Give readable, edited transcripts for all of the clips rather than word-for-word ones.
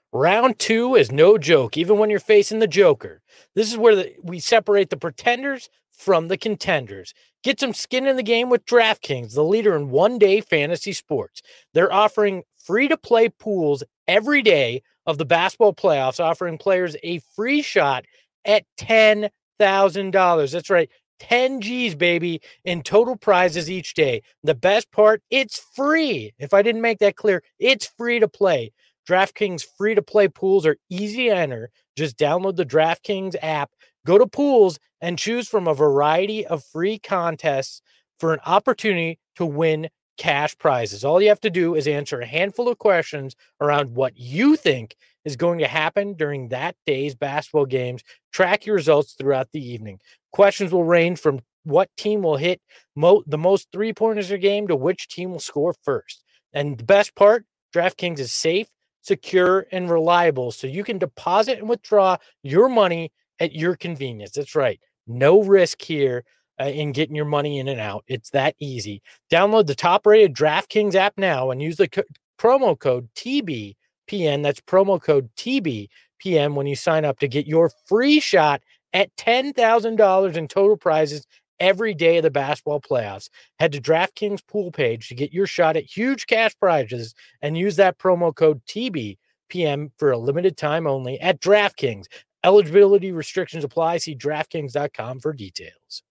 Round two is no joke, even when you're facing the Joker. This is where we separate the pretenders from the contenders. Get some skin in the game with DraftKings, the leader in one-day fantasy sports. They're offering free-to-play pools every day of the basketball playoffs, offering players a free shot at $10,000. That's right, 10 G's, baby, in total prizes each day. The best part, it's free. If I didn't make that clear, it's free to play. DraftKings free-to-play pools are easy to enter. Just download the DraftKings app, go to pools, and choose from a variety of free contests for an opportunity to win cash prizes. All you have to do is answer a handful of questions around what you think is going to happen during that day's basketball games. Track your results throughout the evening. Questions will range from what team will hit the most three-pointers a game to which team will score first. And the best part, DraftKings is safe, secure, and reliable, so you can deposit and withdraw your money at your convenience. That's right. No risk here in getting your money in and out. It's that easy. Download the top-rated DraftKings app now and use the promo code TBPN. That's promo code TBPN when you sign up to get your free shot at $10,000 in total prizes every day of the basketball playoffs. Head to DraftKings pool page to get your shot at huge cash prizes and use that promo code TBPM for a limited time only at DraftKings. Eligibility restrictions apply. See DraftKings.com for details.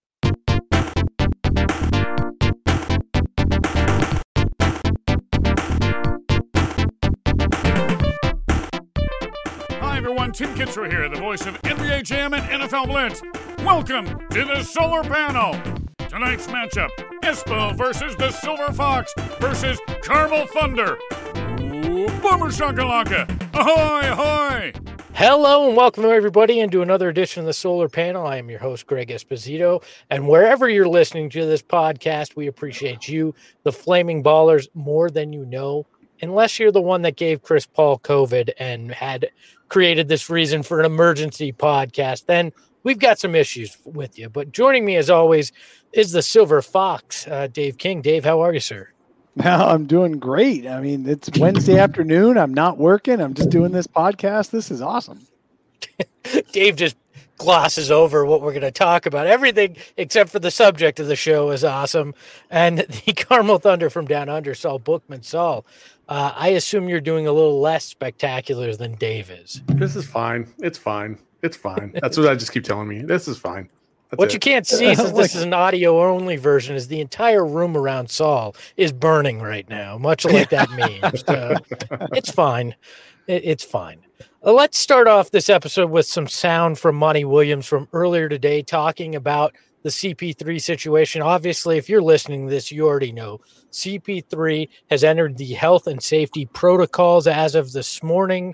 Hi, everyone. Tim Kitzrow here, the voice of NBA Jam and NFL Blitz. Welcome to the Solar Panel. Tonight's matchup, Espo versus the Silver Fox versus Carmel Thunder. Ooh, Boomer Shakalaka. Ahoy, ahoy. Hello and welcome everybody into another edition of the Solar Panel. I am your host, Greg Esposito, and wherever you're listening to this podcast, we appreciate you, the Flaming Ballers, more than you know, unless you're the one that gave Chris Paul COVID and had created this reason for an emergency podcast, then we've got some issues with you. But joining me as always is the Silver Fox, Dave King. Dave, how are you, sir? Well, I'm doing great. I mean, it's Wednesday afternoon. I'm not working. I'm just doing this podcast. This is awesome. Dave just glosses over what we're going to talk about. Everything except for the subject of the show is awesome. And the Carmel Thunder from down under, Saul Bookman. Saul, I assume you're doing a little less spectacular than Dave is. This is fine. It's fine. It's fine. That's what I just keep telling me. This is fine. What you can't see, since this is an audio-only version, is the entire room around Saul is burning right now, much like that meme. It's fine. It's fine. Let's start off this episode with some sound from Monty Williams from earlier today talking about the CP3 situation. Obviously, if you're listening to this, you already know CP3 has entered the health and safety protocols as of this morning.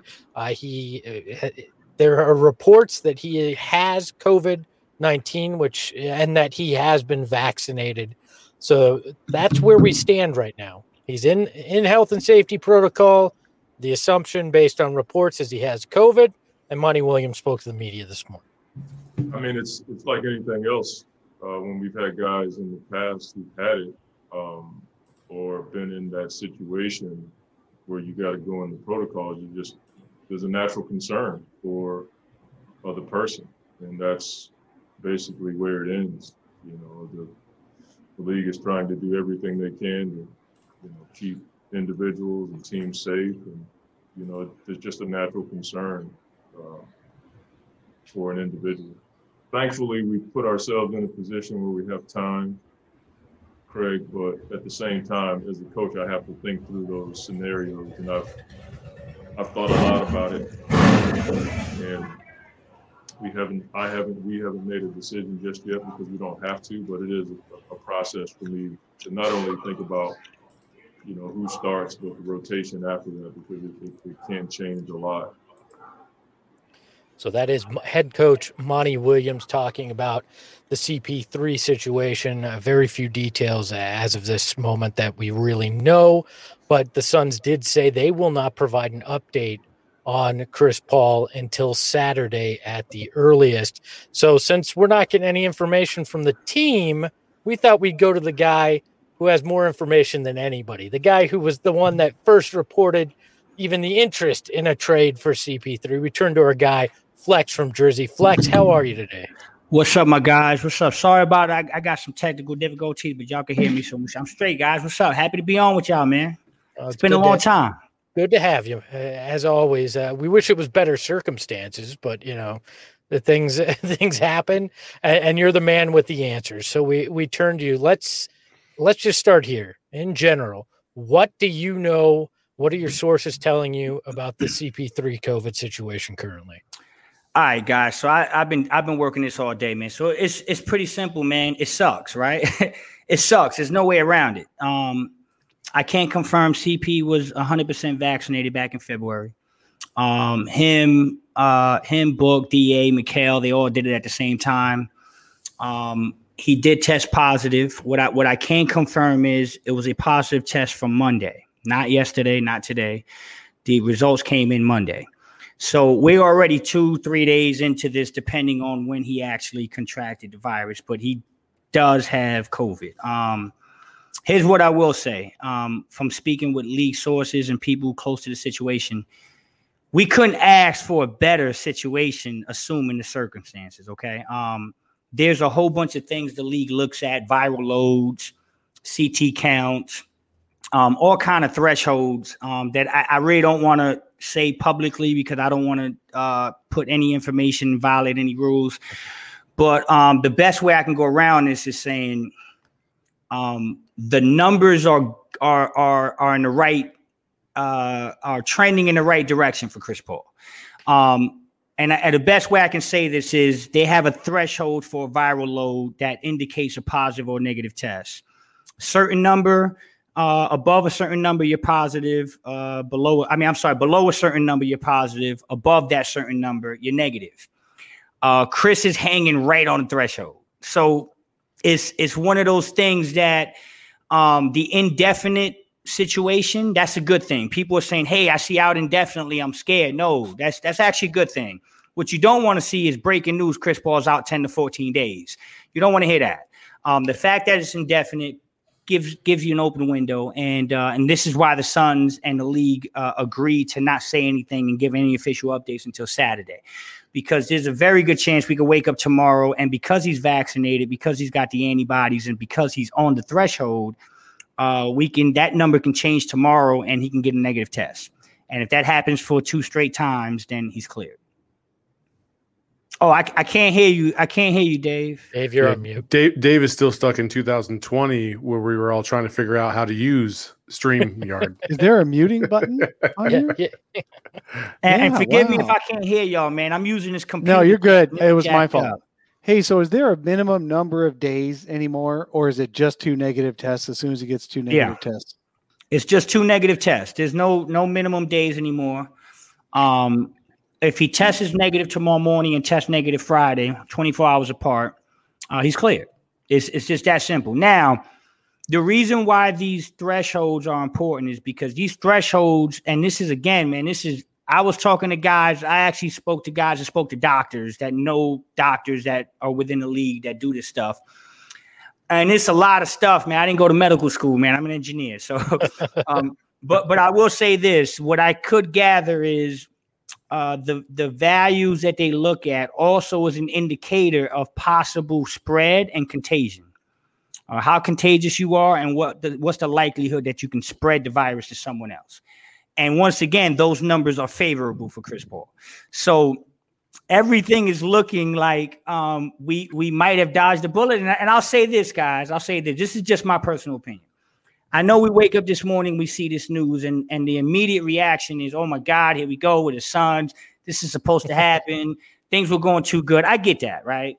There are reports that he has COVID-19, and that he has been vaccinated. So that's where we stand right now. He's in health and safety protocol. The assumption based on reports is he has COVID, and Monty Williams spoke to the media this morning. I mean, it's like anything else. When we've had guys in the past who've had it or been in that situation where you got to go in the protocols, there's a natural concern for the person, and that's basically where it ends. You know, the league is trying to do everything they can to, keep individuals and teams safe, and there's just a natural concern for an individual. Thankfully, we put ourselves in a position where we have time, Craig, but at the same time, as a coach, I have to think through those scenarios, and I've thought a lot about it, and we haven't made a decision just yet because we don't have to, but it is a process for me to not only think about, who starts, but the rotation after that, because it can change a lot. So that is head coach Monty Williams talking about the CP3 situation. Very few details as of this moment that we really know, but the Suns did say they will not provide an update on Chris Paul until Saturday at the earliest. So since we're not getting any information from the team, we thought we'd go to the guy who has more information than anybody, the guy who was the one that first reported even the interest in a trade for CP3. We turn to our guy, Flex from Jersey. Flex, how are you today? What's up, my guys? What's up? Sorry about it. I got some technical difficulties, but y'all can hear me, so I'm straight, guys. What's up? Happy to be on with y'all, man. It's been a long time. Good to have you, as always. We wish it was better circumstances, but the things happen, and you're the man with the answers. So we turn to you. Let's just start here. In general, what do you know? What are your sources telling you about the CP3 COVID situation currently? All right, guys. So I've been working this all day, man. So it's pretty simple, man. It sucks, right? It sucks. There's no way around it. I can't confirm CP was 100% vaccinated back in February. Him, Book, DA, Mikhail, they all did it at the same time. He did test positive. What I can confirm is it was a positive test from Monday, not yesterday, not today. The results came in Monday. So we're already 2-3 days into this, depending on when he actually contracted the virus, but he does have COVID. Here's what I will say. From speaking with league sources and people close to the situation, we couldn't ask for a better situation, assuming the circumstances, okay? There's a whole bunch of things the league looks at, viral loads, CT counts, all kind of thresholds that I really don't want to say publicly because I don't want to put any information, violate any rules. But the best way I can go around this is saying the numbers are in the right, are trending in the right direction for Chris Paul. And the best way I can say this is they have a threshold for a viral load that indicates a positive or negative test. Certain number, above a certain number, you're positive. Below a certain number, you're positive. Above that certain number, you're negative. Chris is hanging right on the threshold. So it's one of those things that the indefinite situation, that's a good thing. People are saying, hey, I see out indefinitely, I'm scared. No, that's actually a good thing. What you don't want to see is breaking news, Chris Paul's out 10 to 14 days. You don't want to hear that. The fact that it's indefinite gives you an open window, and this is why the Suns and the league agreed to not say anything and give any official updates until Saturday, because there's a very good chance we could wake up tomorrow, and because he's vaccinated, because he's got the antibodies, and because he's on the threshold, that number can change tomorrow and he can get a negative test. And if that happens for 2 straight times, then he's cleared. Oh, I can't hear you. I can't hear you, Dave. Dave, you're on mute. Dave is still stuck in 2020 where we were all trying to figure out how to use StreamYard. Is there a muting button on here? Yeah. And forgive me if I can't hear y'all, man. I'm using this computer. No, you're good. It was my fault. Up. Hey, so is there a minimum number of days anymore, or is it just 2 negative tests as soon as he gets 2 negative tests? It's just 2 negative tests. There's no minimum days anymore. If he tests negative tomorrow morning and tests negative Friday, 24 hours apart, he's cleared. It's just that simple. Now, the reason why these thresholds are important is because these thresholds, and this is, again, man, I was talking to guys. I actually spoke to guys and spoke to doctors that know doctors that are within the league that do this stuff. And it's a lot of stuff, man. I didn't go to medical school, man. I'm an engineer. So, but I will say this. What I could gather is the values that they look at also is an indicator of possible spread and contagion. How contagious you are and what's the likelihood that you can spread the virus to someone else. And once again, those numbers are favorable for Chris Paul. So everything is looking like we might have dodged a bullet. And I'll say this, guys. This is just my personal opinion. I know we wake up this morning, we see this news, and the immediate reaction is, oh, my God, here we go with the Suns. This is supposed to happen. Things were going too good. I get that, right?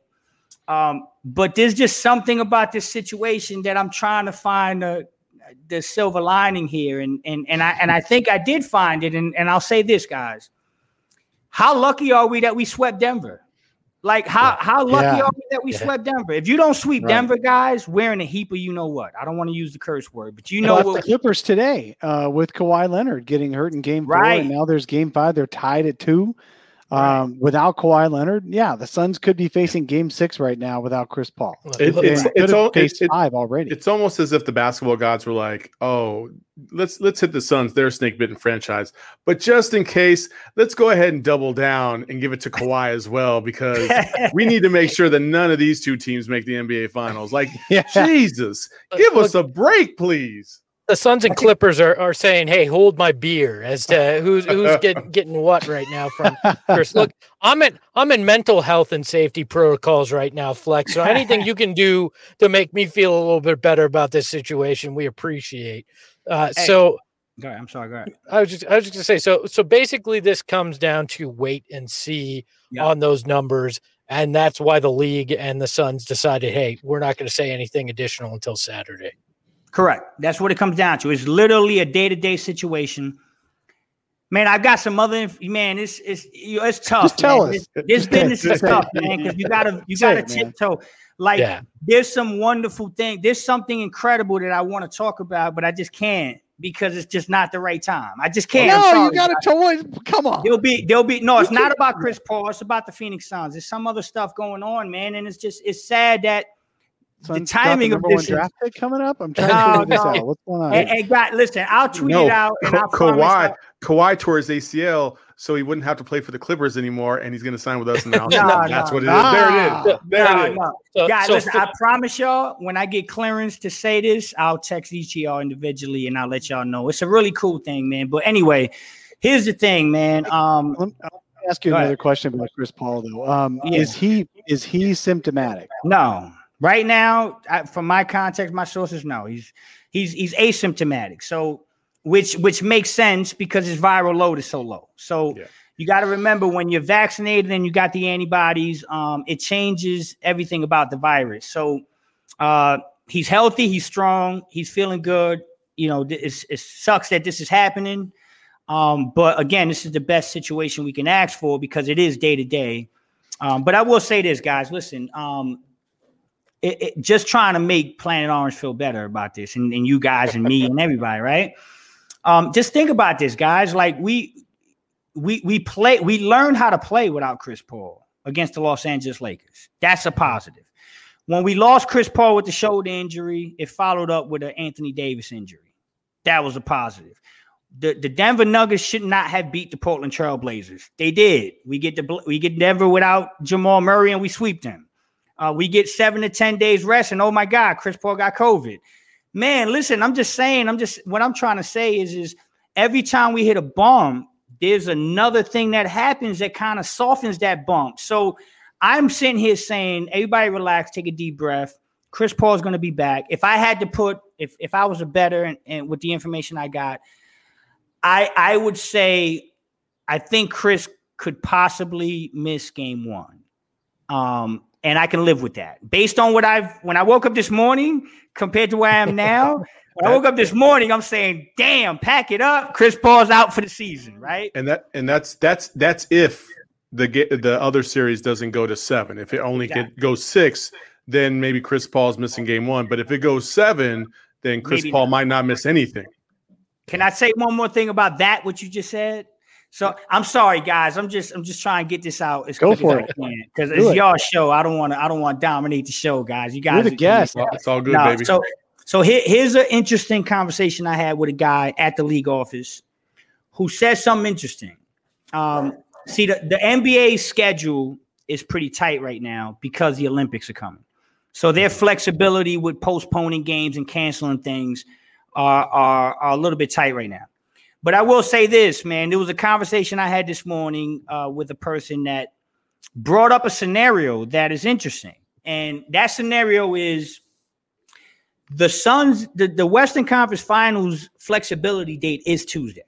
But there's just something about this situation that I'm trying to find the silver lining here. And I think I did find it. And I'll say this, guys. How lucky are we that we swept Denver? Like, how lucky are we that we swept Denver? If you don't sweep Denver, guys, we're in a heap of you-know-what. I don't want to use the curse word, but you know what. The Clippers today with Kawhi Leonard getting hurt in Game 4, and now there's Game 5. They're tied at 2. Without Kawhi Leonard, the Suns could be facing Game 6 right now without Chris Paul. It's 5 already. It's almost as if the basketball gods were like, "Oh, let's hit the Suns. They're a snake-bitten franchise, but just in case, let's go ahead and double down and give it to Kawhi as well because we need to make sure that none of these two teams make the NBA Finals." Like, Jesus, give us a break, please. The Suns and Clippers are saying, "Hey, hold my beer," as to who's getting what right now from Chris. Look, I'm in mental health and safety protocols right now, Flex. So anything you can do to make me feel a little bit better about this situation, we appreciate. So, go ahead. I'm sorry. Go ahead. I was just gonna say. So basically, this comes down to wait and see on those numbers, and that's why the league and the Suns decided, hey, we're not going to say anything additional until Saturday. Correct. That's what it comes down to. It's literally a day-to-day situation. Man, I've got some other man. It's tough. Just tell us. This business is tough, man, because you gotta tiptoe. Like there's some wonderful thing. There's something incredible that I want to talk about, but I just can't because it's just not the right time. I just can't. No, you gotta come on. There'll be no. It's not about Chris Paul. It's about the Phoenix Suns. There's some other stuff going on, man, and it's sad that. The timing of this draft pick coming up. I'm trying to figure this out. What's going on? Hey, God, listen, I'll tweet it out. And Kawhi tore his ACL, so he wouldn't have to play for the Clippers anymore, and he's going to sign with us now. That's what it is. There it is. Guys, listen, I promise y'all, when I get clearance to say this, I'll text each of y'all individually, and I'll let y'all know. It's a really cool thing, man. But anyway, here's the thing, man. Let me ask you another question about Chris Paul, though. Is he symptomatic? No. Right now, from my context, my sources, no, he's asymptomatic. So, which makes sense because his viral load is so low. So you got to remember when you're vaccinated and you got the antibodies, it changes everything about the virus. So he's healthy, he's strong, he's feeling good. You know, it sucks that this is happening. But again, this is the best situation we can ask for because it is day to day. But I will say this, guys, listen, just trying to make Planet Orange feel better about this and you guys and me and everybody, right? Just think about this, guys. Like we learned how to play without Chris Paul against the Los Angeles Lakers. That's a positive. When we lost Chris Paul with the shoulder injury, it followed up with an Anthony Davis injury. That was a positive. The Denver Nuggets should not have beat the Portland Trail Blazers. They did. We get Denver without Jamal Murray and we sweep them. We get 7 to 10 days rest, and oh my God, Chris Paul got COVID. Man, listen, what I'm trying to say is every time we hit a bump, there's another thing that happens that kind of softens that bump. So I'm sitting here saying, everybody relax, take a deep breath. Chris Paul is going to be back. If I had to put, if I was a better and with the information I got, I would say I think Chris could possibly miss game 1. And I can live with that. Based on when I woke up this morning compared to where I am now, when I woke up this morning, I'm saying, damn, pack it up. Chris Paul's out for the season, right? And that's if the other series doesn't go to 7. If it only goes 6, then maybe Chris Paul's missing game 1. But if it goes 7, then Chris Paul might not miss anything. Can I say one more thing about that, what you just said? So I'm sorry, guys. I'm just trying to get this out as quick as I can because it's y'all show. I don't want to dominate the show, guys. You guys, you're the guest. It's all good, baby. So here's an interesting conversation I had with a guy at the league office who said something interesting. See, the NBA schedule is pretty tight right now because the Olympics are coming. So their flexibility with postponing games and canceling things are a little bit tight right now. But I will say this, man. There was a conversation I had this morning with a person that brought up a scenario that is interesting. And that scenario is the Suns, the Western Conference Finals flexibility date is Tuesday.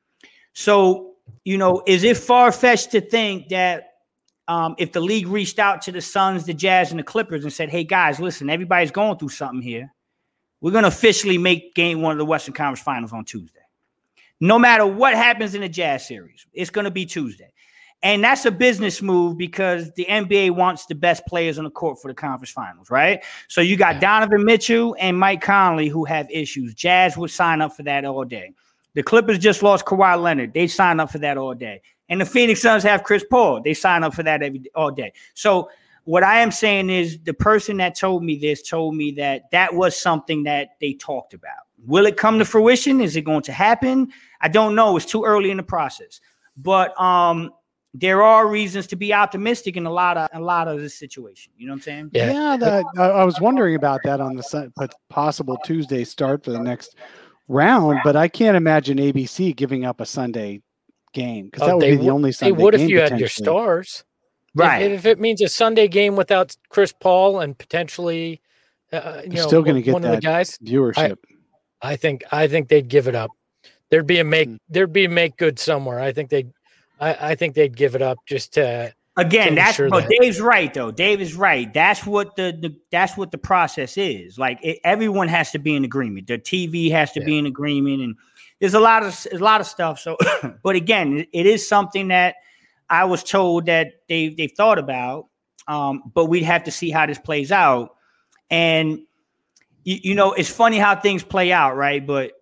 So, is it far-fetched to think that if the league reached out to the Suns, the Jazz, and the Clippers and said, hey, guys, listen, everybody's going through something here. We're going to officially make game 1 of the Western Conference Finals on Tuesday. No matter what happens in the Jazz series, it's going to be Tuesday. And that's a business move because the NBA wants the best players on the court for the conference finals, right? So you got Donovan Mitchell and Mike Conley who have issues. Jazz would sign up for that all day. The Clippers just lost Kawhi Leonard. They sign up for that all day. And the Phoenix Suns have Chris Paul. They sign up for that all day. So what I am saying is the person that told me this told me that was something that they talked about. Will it come to fruition? Is it going to happen? I don't know. It's too early in the process. But there are reasons to be optimistic in a lot of this situation. You know what I'm saying? Yeah. I was wondering about that on the possible Tuesday start for the next round, but I can't imagine ABC giving up a Sunday game because that would be the only Sunday game. They would if you had your stars. Right. If it means a Sunday game without Chris Paul and potentially, still going to get one that of the guys, viewership. I think they'd give it up. There'd be a make good somewhere. I think they'd give it up just to. Again, Dave's right though. Dave is right. That's what the process is. Like everyone has to be in agreement. The TV has to be in agreement, and there's a lot of stuff. So, but again, it is something that I was told that they've thought about. But we'd have to see how this plays out. And it's funny how things play out, right? But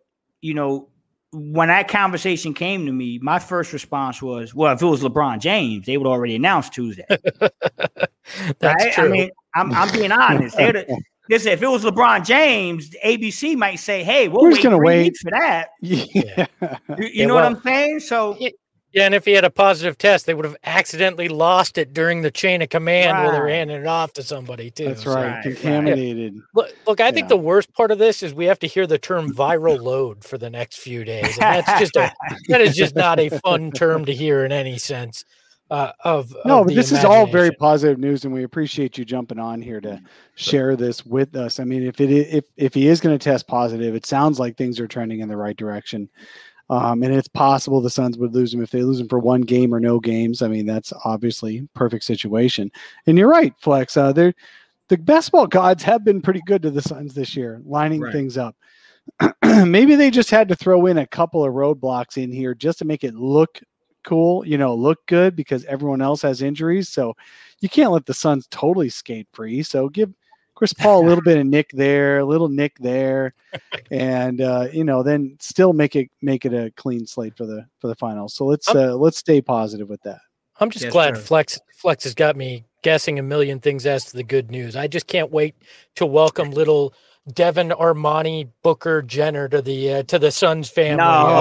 when that conversation came to me, my first response was, well, if it was LeBron James, they would already announce Tuesday. That's right? true. I mean, I'm being honest. Listen, if it was LeBron James, ABC might say, hey, we're going to wait for that. Yeah. You know what I'm saying? So yeah, and if he had a positive test, they would have accidentally lost it during the chain of command where they're handing it off to somebody too. That's right. Contaminated. Yeah. Look, I think the worst part of this is we have to hear the term viral load for the next few days. And that is just not a fun term to hear in any sense. But this is all very positive news, and we appreciate you jumping on here to share this with us. I mean, if he is going to test positive, it sounds like things are trending in the right direction. And it's possible the Suns would lose him if they lose him for one game or no games. I mean, that's obviously perfect situation. And you're right, Flex. The basketball gods have been pretty good to the Suns this year, lining things up. Maybe they just had to throw in a couple of roadblocks in here just to make it look cool, look good because everyone else has injuries. So you can't let the Suns totally skate free. So give Chris Paul a little bit of nick there, a little nick there, and then still make it a clean slate for the finals. So let's stay positive with that. I'm just glad Flex has got me guessing a million things as to the good news. I just can't wait to welcome little Devin Armani Booker Jenner to the Suns family.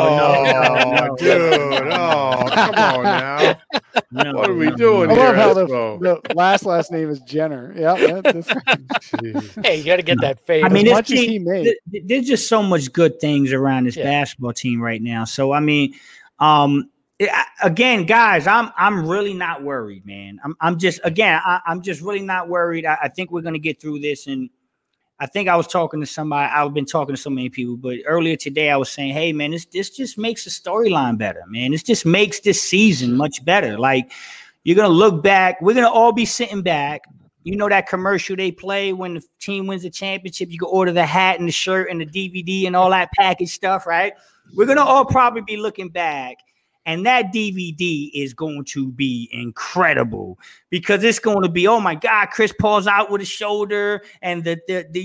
No, dude. Oh, come on now. No, what are we doing here? I love how the last name is Jenner. Yeah. Hey, you got to get that fade. I mean, there's just so much good things around this basketball team right now. So, I mean, again, guys, I'm really not worried, man. I'm just really not worried. I think we're going to get through this. And I think I was talking to somebody. I've been talking to so many people, but earlier today I was saying, hey, man, this just makes the storyline better, man. This just makes this season much better. Like, you're going to look back. We're going to all be sitting back. You know that commercial they play when the team wins the championship? You can order the hat and the shirt and the DVD and all that package stuff, right? We're going to all probably be looking back. And that DVD is going to be incredible because it's going to be, oh my God, Chris Paul's out with his shoulder and the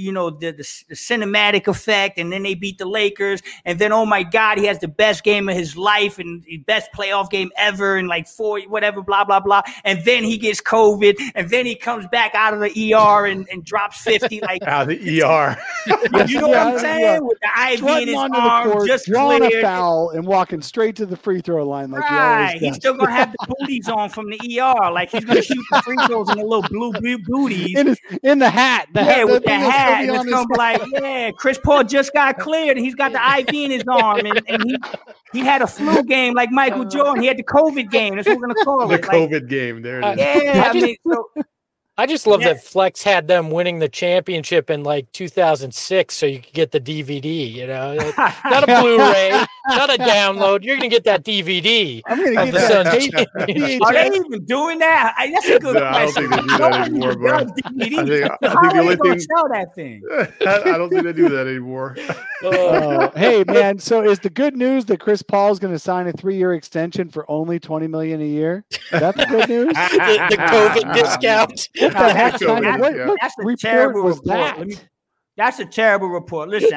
cinematic effect, and then they beat the Lakers, and then oh my God, he has the best game of his life and the best playoff game ever, and like 4 whatever, blah blah blah, and then he gets COVID, and then he comes back out of the ER and drops 50 like out of the ER. You know what I'm saying? With the IV in his arm, just drawing a foul and walking straight to the free throw line. Like right, he's still gonna have the booties on from the ER. Like he's gonna shoot the free throws in the little blue booties in the hat. With the hat, and it's gonna be like, Chris Paul just got cleared, and he's got the IV in his arm, and he had a flu game like Michael Jordan. He had the COVID game. That's what we're gonna call it. The COVID game. There it is. I just love that Flex had them winning the championship in like 2006, so you could get the DVD. Not a Blu-ray, not a download. You're gonna get that DVD. I'm gonna get that. Are they even doing that? That's a good question. I don't think they do that anymore, bro. I think the only thing sell that thing. I don't think they do that anymore. Hey man, so is the good news that Chris Paul is going to sign a 3-year extension for only $20 million a year? That's the good news. the COVID discount. What the heck? That's a terrible report. That's a terrible report. Listen,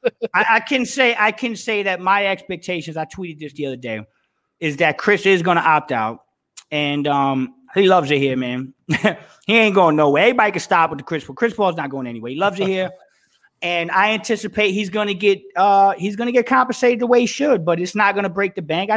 I can say that my expectations, I tweeted this the other day, is that Chris is going to opt out. And he loves it here, man. He ain't going nowhere. Everybody can stop with the Chris Paul. Chris Paul's not going anywhere. He loves it here. And I anticipate he's going to get compensated the way he should, but it's not going to break the bank.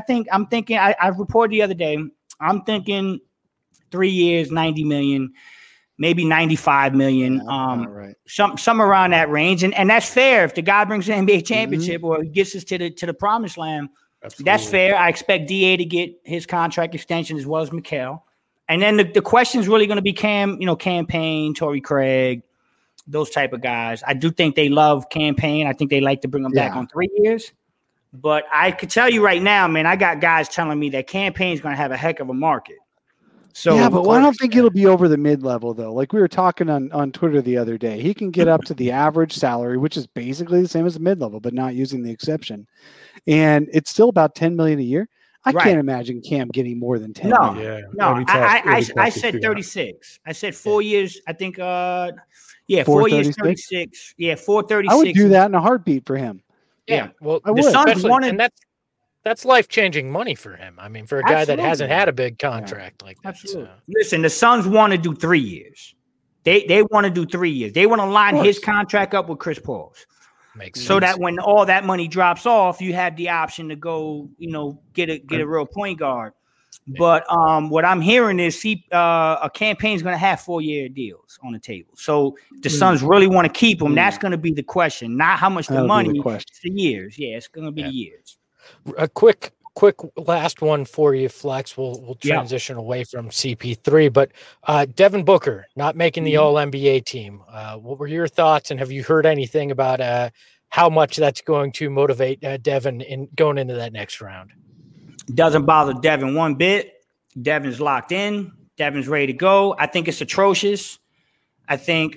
I reported the other day, I'm thinking 3 years, 90 million, maybe 95 million, right. some around that range. And that's fair. If the guy brings an NBA championship or he gets us to the promised land, absolutely. That's fair. I expect DA to get his contract extension as well as Mikal. And then the question is really going to be Cam Payne, Torrey Craig, those type of guys. I do think they love Cam Payne. I think they like to bring him back on 3 years. But I could tell you right now, man, I got guys telling me that Cam Payne's going to have a heck of a market. So yeah, but I don't think it'll be over the mid-level, though. Like we were talking on Twitter the other day, he can get up to the average salary, which is basically the same as the mid-level, but not using the exception. And it's still about $10 million a year. I can't imagine Cam getting more than 10 million. No. I said 36. I said 4 years. I think 4 years, 36. Yeah, 436. I would do that in a heartbeat for him. Yeah. Well, I would. Suns wanted, and that's life-changing money for him. I mean, for a guy that hasn't had a big contract like that. Absolutely. So. Listen, the Suns want to do 3 years. They want to do 3 years. They want to line his contract up with Chris Paul's. Makes sense. So that when all that money drops off, you have the option to go, get a real point guard. Yeah. But what I'm hearing is a campaign's going to have 4-year deals on the table. So the Suns really want to keep him. That's going to be the question, not how much the money. It's the years. Yeah, it's going to be the years. A quick last one for you, Flex. We'll transition away from CP3, but Devin Booker not making the All-NBA team. What were your thoughts, and have you heard anything about how much that's going to motivate Devin in going into that next round? Doesn't bother Devin one bit. Devin's locked in. Devin's ready to go. I think it's atrocious. I think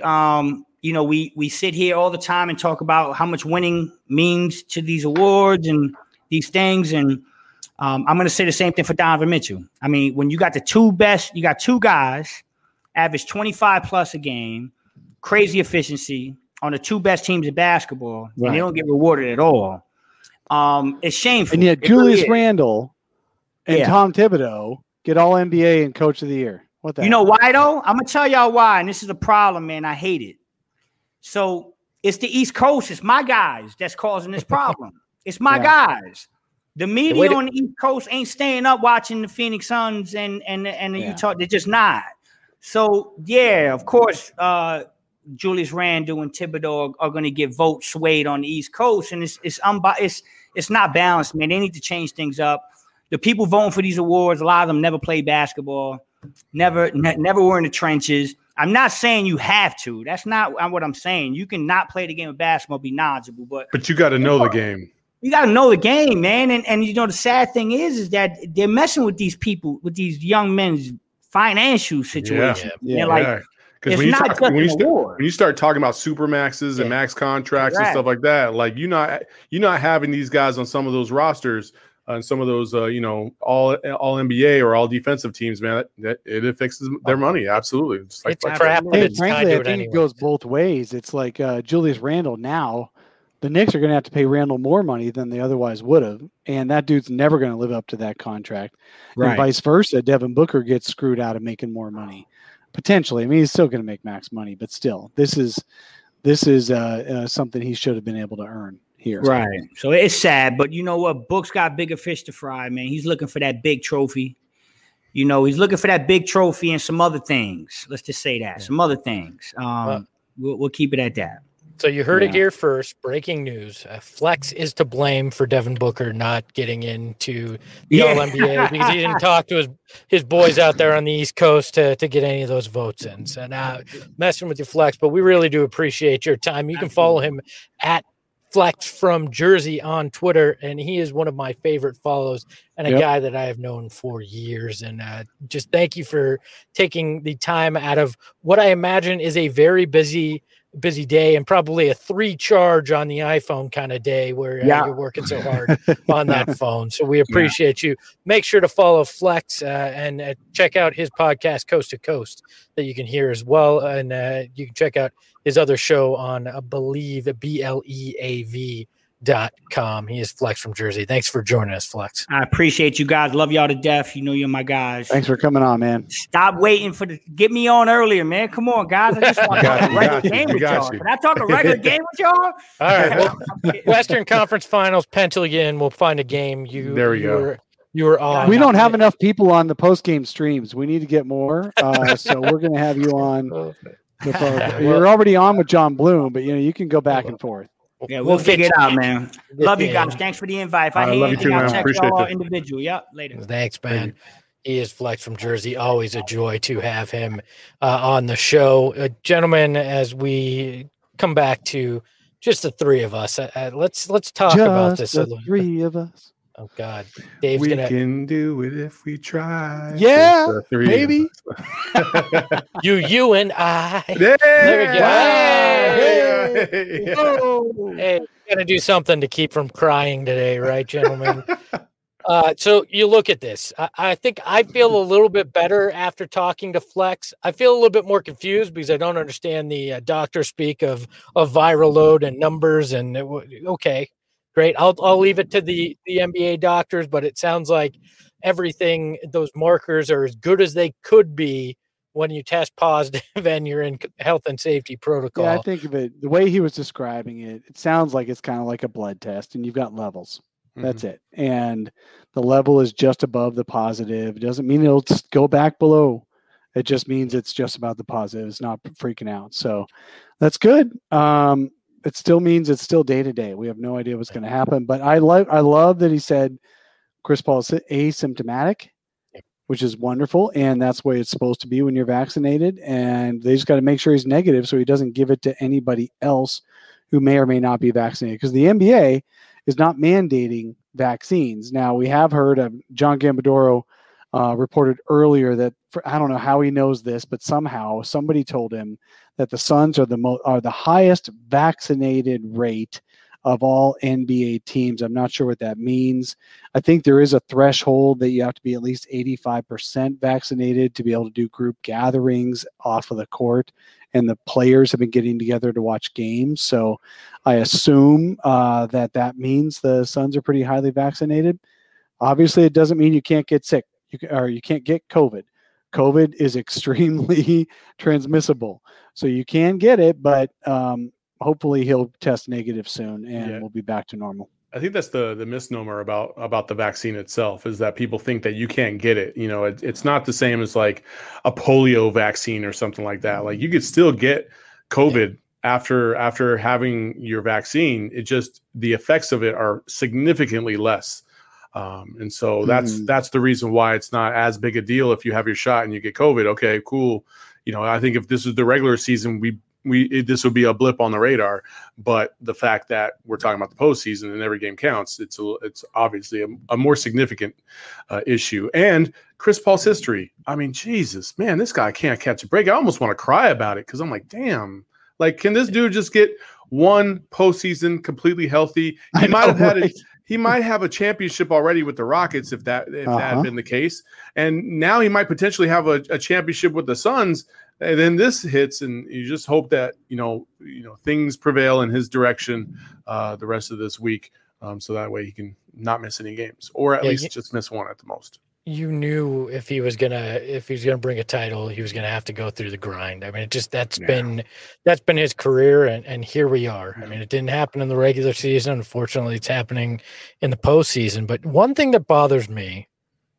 we sit here all the time and talk about how much winning means to these awards and these things, and I'm going to say the same thing for Donovan Mitchell. I mean, when you got two guys, average 25 plus a game, crazy efficiency on the two best teams in basketball, and they don't get rewarded at all. It's shameful. And yet Julius Randle and Tom Thibodeau get all NBA and Coach of the Year. What the You know why, though? I'm going to tell y'all why, and this is a problem, man. I hate it. So it's the East Coast. It's my guys that's causing this problem. It's my guys. The media on the East Coast ain't staying up watching the Phoenix Suns and the Utah. They're just not. So, of course, Julius Randle and Thibodeau are going to get votes swayed on the East Coast, and it's not balanced, man. They need to change things up. The people voting for these awards, a lot of them never played basketball, never were in the trenches. I'm not saying you have to. That's not what I'm saying. You can not play the game of basketball, be knowledgeable, but you got to know the game. You got to know the game, man. And the sad thing is that they're messing with these people, with these young men's financial situations. Because when you start talking about super maxes and max contracts and stuff like that, like you're not having these guys on some of those rosters and some of those all NBA or all defensive teams, man. That it affects their money. Absolutely, it's crap. Frankly, I think it goes both ways. It's like Julius Randle now. The Knicks are going to have to pay Randle more money than they otherwise would have, and that dude's never going to live up to that contract. Right. And vice versa, Devin Booker gets screwed out of making more money. Potentially. I mean, he's still going to make max money, but still, this is something he should have been able to earn here. Right. So it's sad, but you know what? Book's got bigger fish to fry, man. He's looking for that big trophy. He's looking for that big trophy and some other things. Let's just say that. Some other things. We'll keep it at that. So you heard it here first. Breaking news. Flex is to blame for Devin Booker not getting into the All-NBA because he didn't talk to his boys out there on the East Coast to get any of those votes in. So now messing with your Flex, but we really do appreciate your time. You can follow him at Flex from Jersey on Twitter, and he is one of my favorite follows and a guy that I have known for years. And just thank you for taking the time out of what I imagine is a very busy busy day and probably a 3 charge on the iPhone kind of day where you're working so hard on that phone. So we appreciate you. Make sure to follow Flex and check out his podcast, Coast to Coast, that you can hear as well. And you can check out his other show on, I believe, BLEAV.com. He is Flex from Jersey. Thanks for joining us, Flex. I appreciate you guys. Love y'all to death. You know you're my guys. Thanks for coming on, man. Stop waiting get me on earlier, man. Come on, guys. I just want to talk a regular game with y'all. Can I talk a regular game with y'all? All right. Well, Western Conference Finals, pencil you in. We'll find a game. There we go. You were on. We don't have enough people on the post-game streams. We need to get more. So we're going to have you on. You're already on with John Bloom, but you can go back and forth. Yeah, we'll figure it out, man. Love you guys. Thanks for the invite. If I hear anything, I'll text y'all individual. Yep, later. Thanks, man. He is Flex from Jersey. Always a joy to have him on the show. Gentlemen, as we come back to just the three of us, let's talk about this. Just the three of us. Oh, God. Dave's we can do it if we try. Yeah, baby. you and I. Yeah. There we Hey. go. Hey, we got to do something to keep from crying today, right, gentlemen? So you look at this. I think I feel a little bit better after talking to Flex. I feel a little bit more confused because I don't understand the doctor speak of viral load and numbers. And okay. Great. I'll leave it to the NBA doctors, but it sounds like everything, those markers are as good as they could be when you test positive and you're in health and safety protocol. Yeah, I think of it, the way he was describing it, it sounds like it's kind of like a blood test and you've got levels. That's it. And the level is just above the positive. It doesn't mean it'll go back below. It just means it's just about the positive. It's not freaking out. So that's good. It still means it's still day to day. We have no idea what's going to happen, but I love that he said Chris Paul is asymptomatic, which is wonderful. And that's the way it's supposed to be when you're vaccinated. And they just got to make sure he's negative so he doesn't give it to anybody else who may or may not be vaccinated, because the NBA is not mandating vaccines. Now, we have heard of John Gambadoro reported earlier that I don't know how he knows this, but somehow somebody told him that the Suns are the highest vaccinated rate of all NBA teams. I'm not sure what that means. I think there is a threshold that you have to be at least 85% vaccinated to be able to do group gatherings off of the court, and the players have been getting together to watch games. So I assume that means the Suns are pretty highly vaccinated. Obviously, it doesn't mean you can't get sick. You can't get COVID. COVID is extremely transmissible. So you can get it, but hopefully he'll test negative soon and we'll be back to normal. I think that's the misnomer about the vaccine itself, is that people think that you can't get it. It's not the same as like a polio vaccine or something like that. Like you could still get COVID after having your vaccine. It just, the effects of it are significantly less. And so that's the reason why it's not as big a deal if you have your shot and you get COVID. Okay, cool. I think if this is the regular season, this would be a blip on the radar. But the fact that we're talking about the postseason and every game counts, it's obviously a more significant issue. And Chris Paul's history. I mean, Jesus, man, this guy can't catch a break. I almost want to cry about it because I'm like, damn. Like, can this dude just get one postseason completely healthy? He might have a championship already with the Rockets if that had been the case. And now he might potentially have a championship with the Suns. And then this hits, and you just hope that, things prevail in his direction the rest of this week. So that way he can not miss any games, or at least just miss one at the most. You knew if he was gonna bring a title, he was gonna have to go through the grind. I mean, that's been his career, and here we are. I mean, it didn't happen in the regular season. Unfortunately, it's happening in the postseason. But one thing that bothers me,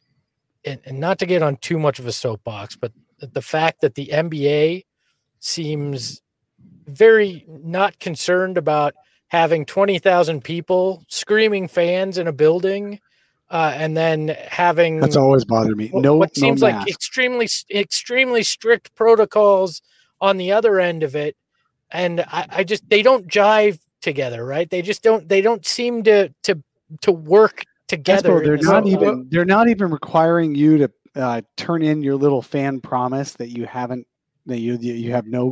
and not to get on too much of a soapbox, but the fact that the NBA seems very not concerned about having 20,000 people, screaming fans in a building. And then having that's always bothered me. What seems like extremely strict protocols on the other end of it, and I just, they don't jive together, right? They don't seem to work together. They're not even requiring you to turn in your little fan promise that you haven't that you have no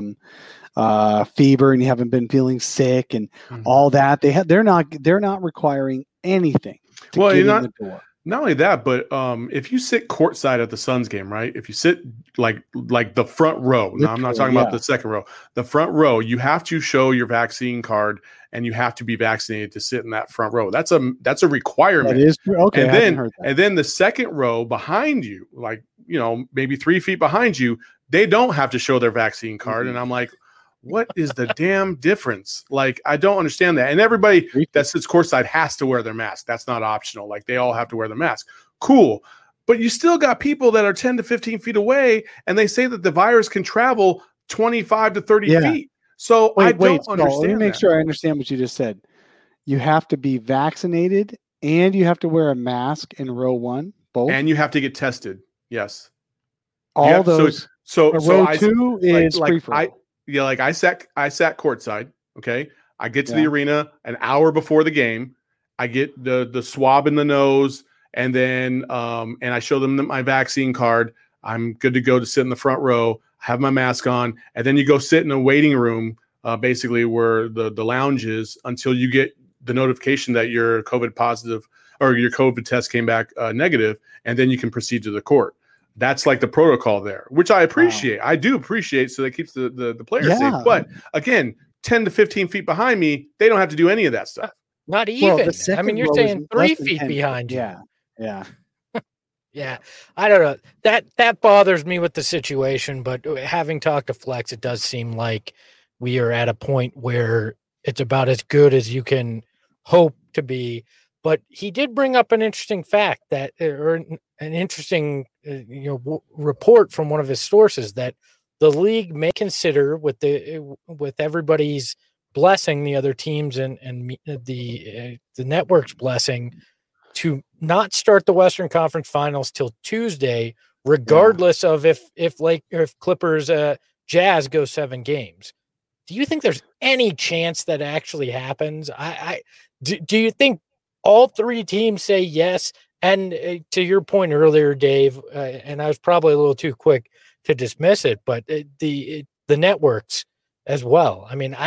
fever and you haven't been feeling sick and all that. They're not requiring anything to get in the door. Not only that, but if you sit courtside at the Suns game, right? If you sit like the front row, now I'm not talking about the second row, the front row, you have to show your vaccine card and you have to be vaccinated to sit in that front row. That's a requirement. That is true. Okay. And then the second row behind you, like, maybe 3 feet behind you, they don't have to show their vaccine card. And I'm like, what is the damn difference? Like, I don't understand that. And everybody that sits courtside has to wear their mask. That's not optional. Like, they all have to wear the mask. Cool. But you still got people that are 10 to 15 feet away, and they say that the virus can travel 25 to 30 feet. So I don't understand. Let me make sure I understand what you just said. You have to be vaccinated and you have to wear a mask in row 1, both. And you have to get tested. Yes. All those. So row 2 is free for all. Yeah, like I sat courtside. Okay, I get to the arena an hour before the game. I get the swab in the nose, and then and I show them my vaccine card. I'm good to go to sit in the front row. Have my mask on, and then you go sit in a waiting room, basically where the lounge is, until you get the notification that you're COVID positive or your COVID test came back negative, and then you can proceed to the court. That's like the protocol there, which I appreciate. Wow. I do appreciate, so that keeps the players safe. But again, 10 to 15 feet behind me, they don't have to do any of that stuff. Not even. I mean, you're saying 3 feet behind you. Yeah. Yeah. I don't know. That bothers me with the situation, but having talked to Flex, it does seem like we are at a point where it's about as good as you can hope to be. But he did bring up an interesting fact or an interesting report from one of his sources that the league may consider, with everybody's blessing, the other teams and the network's blessing, to not start the Western Conference Finals till Tuesday, regardless of if Clippers Jazz go 7 games. Do you think there's any chance that actually happens? Do you think all 3 teams say yes? And to your point earlier, Dave, and I was probably a little too quick to dismiss it, but the networks as well. I mean,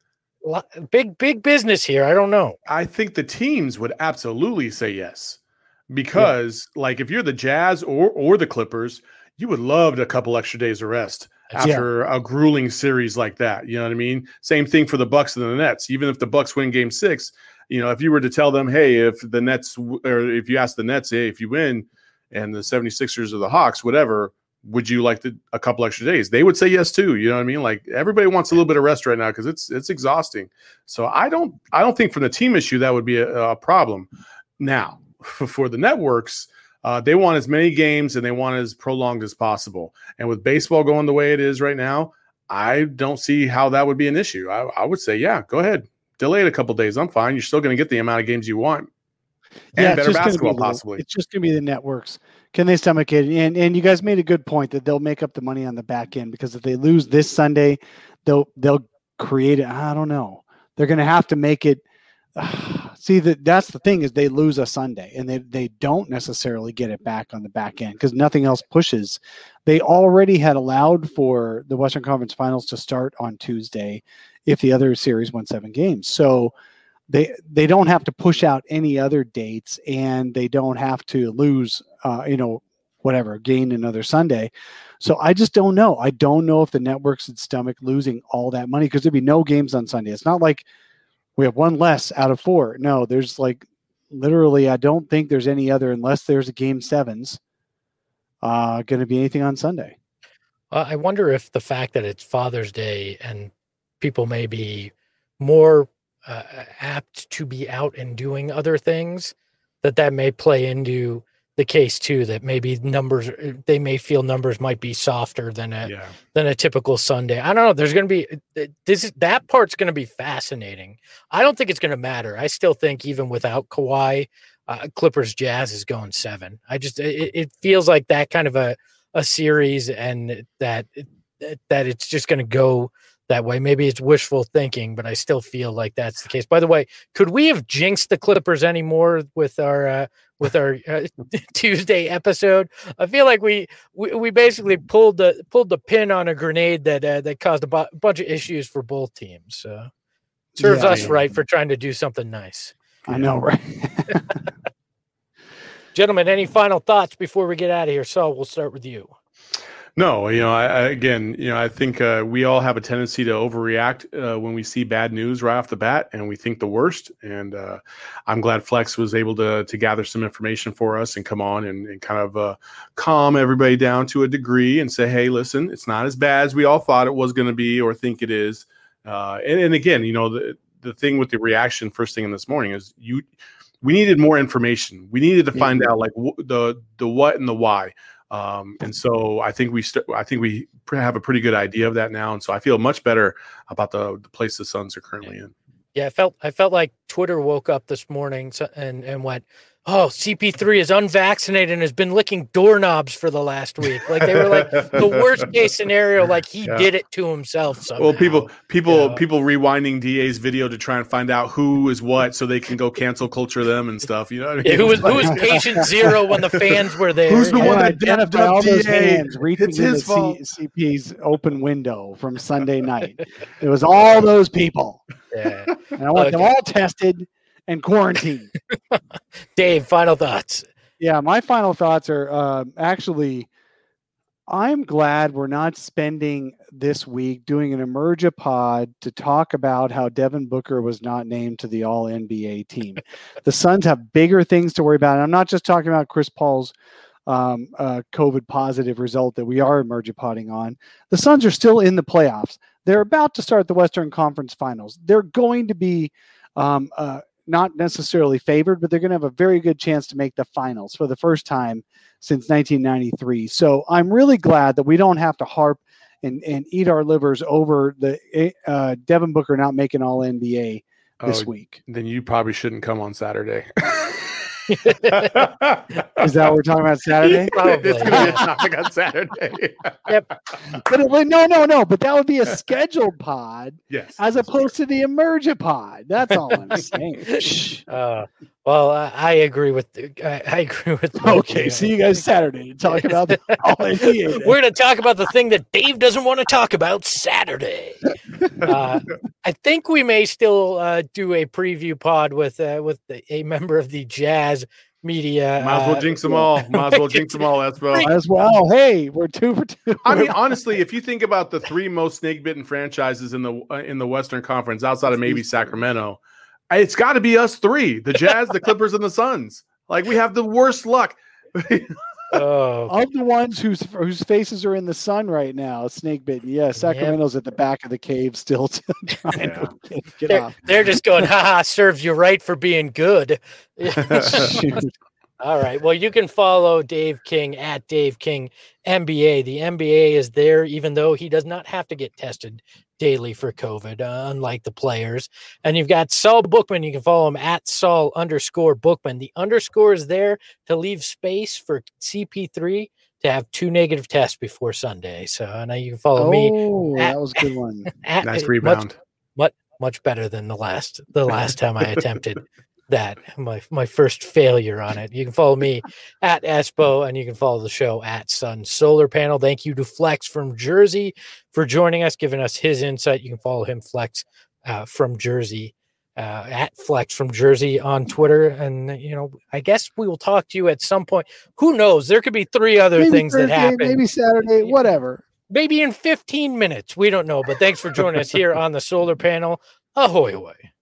big business here. I don't know. I think the teams would absolutely say yes, because like if you're the Jazz or the Clippers, you would love a couple extra days of rest after a grueling series like that. You know what I mean? Same thing for the Bucks and the Nets. Even if the Bucks win Game 6. If you were to tell them, hey, if the Nets, or if you ask the Nets, hey, if you win and the 76ers or the Hawks, whatever, would you like a couple extra days? They would say yes too. You know what I mean? Like, everybody wants a little bit of rest right now because it's exhausting. So I don't think from the team issue that would be a problem. Now, for the networks, they want as many games and they want as prolonged as possible. And with baseball going the way it is right now, I don't see how that would be an issue. I would say, yeah, go ahead. Delay it a couple days. I'm fine. You're still going to get the amount of games you want. And better basketball, possibly. It's just going to be the networks. Can they stomach it? And you guys made a good point that they'll make up the money on the back end, because if they lose this Sunday, they'll create it. I don't know. They're going to have to make it. See, that's the thing, is they lose a Sunday and they don't necessarily get it back on the back end because nothing else pushes. They already had allowed for the Western Conference Finals to start on Tuesday if the other series won 7 games. So they don't have to push out any other dates, and they don't have to lose, gain another Sunday. So I just don't know. I don't know if the networks would stomach losing all that money, because there'd be no games on Sunday. It's not like we have 1 less out of 4. No, there's literally, I don't think there's any other, unless there's a Game 7s, going to be anything on Sunday. I wonder if the fact that it's Father's Day and people may be more apt to be out and doing other things, that may play into the case too, that maybe they may feel numbers might be softer than a typical Sunday. I don't know. There's going to be that part's going to be fascinating. I don't think it's going to matter. I still think even without Kawhi, Clippers Jazz is going 7. It feels like that kind of a series, and that it's just going to go that way. Maybe it's wishful thinking, but I still feel like that's the case. By the way, could we have jinxed the Clippers anymore with our Tuesday episode? I feel like we basically pulled the pin on a grenade that caused a bunch of issues for both teams. Serves us right for trying to do something nice. I know, right? Gentlemen, any final thoughts before we get out of here? Saul, we'll start with you. No, I think we all have a tendency to overreact when we see bad news right off the bat, and we think the worst. And I'm glad Flex was able to gather some information for us and come on and kind of calm everybody down to a degree and say, hey, listen, it's not as bad as we all thought it was going to be or think it is. And again, the thing with the reaction first thing in this morning is we needed more information. We needed to find out like the what and the why. And so I think we have a pretty good idea of that now. And so I feel much better about the place the Suns are currently in. Yeah, I felt like Twitter woke up this morning and went, oh, CP3 is unvaccinated and has been licking doorknobs for the last week. Like they were like the worst case scenario, like he did it to himself somehow. Well, people rewinding DA's video to try and find out who is what so they can go cancel culture them and stuff. You know what I mean? Yeah, who was patient zero when the fans were there? Who's the one that identified all those hands reaching into CP's open window from Sunday night? It was all those people. Yeah. And I want them all tested and quarantined. Dave, final thoughts. Yeah, my final thoughts are actually, I'm glad we're not spending this week doing an Emergipod to talk about how Devin Booker was not named to the All-NBA team. The Suns have bigger things to worry about. And I'm not just talking about Chris Paul's COVID positive result that we are Emergipodding on. The Suns are still in the playoffs. They're about to start the Western Conference Finals. They're going to be not necessarily favored, but they're going to have a very good chance to make the finals for the first time since 1993. So I'm really glad that we don't have to harp and eat our livers over the Devin Booker not making All-NBA this week. Then you probably shouldn't come on Saturday. Is that what we're talking about Saturday? Probably. It's going to be a topic on Saturday. Yep. But no. But that would be a scheduled pod, yes, as opposed to the Emergipod. That's all I'm saying. Well, I agree with. I agree with. Okay, see you guys Saturday to talk about the All-NBA. We're going to talk about the thing that Dave doesn't want to talk about Saturday. I think we may still do a preview pod with a member of the Jazz media. Might as well jinx them all. Espo. As well. Hey, we're 2 for 2. I mean, honestly, if you think about the 3 most snake-bitten franchises in the Western Conference, outside of maybe Sacramento, it's got to be us 3: the Jazz, the Clippers, and the Suns. Like we have the worst luck. Of the ones whose faces are in the sun right now, snake bitten. Yeah, Sacramento's at the back of the cave still trying to get off. They're just going, haha, serves you right for being good. All right. Well, you can follow Dave King at Dave King NBA. The NBA is there, even though he does not have to get tested daily for COVID, unlike the players. And you've got Saul Bookman. You can follow him at Saul_Bookman. The underscore is there to leave space for CP3 to have 2 negative tests before Sunday. So now you can follow me. Oh, that was a good one. Nice rebound. Much better than the last time I attempted that, my first failure on it. You can follow me at Espo, and you can follow the show at Sun Solar Panel. Thank you to Flex from Jersey for joining us, giving us his insight. You can follow him, Flex from Jersey, at Flex from Jersey on Twitter. And, I guess we will talk to you at some point. Who knows? There could be 3 other things Thursday, that happen. Maybe Saturday, whatever. Maybe in 15 minutes. We don't know. But thanks for joining us here on the Solar Panel. Ahoy, ahoy.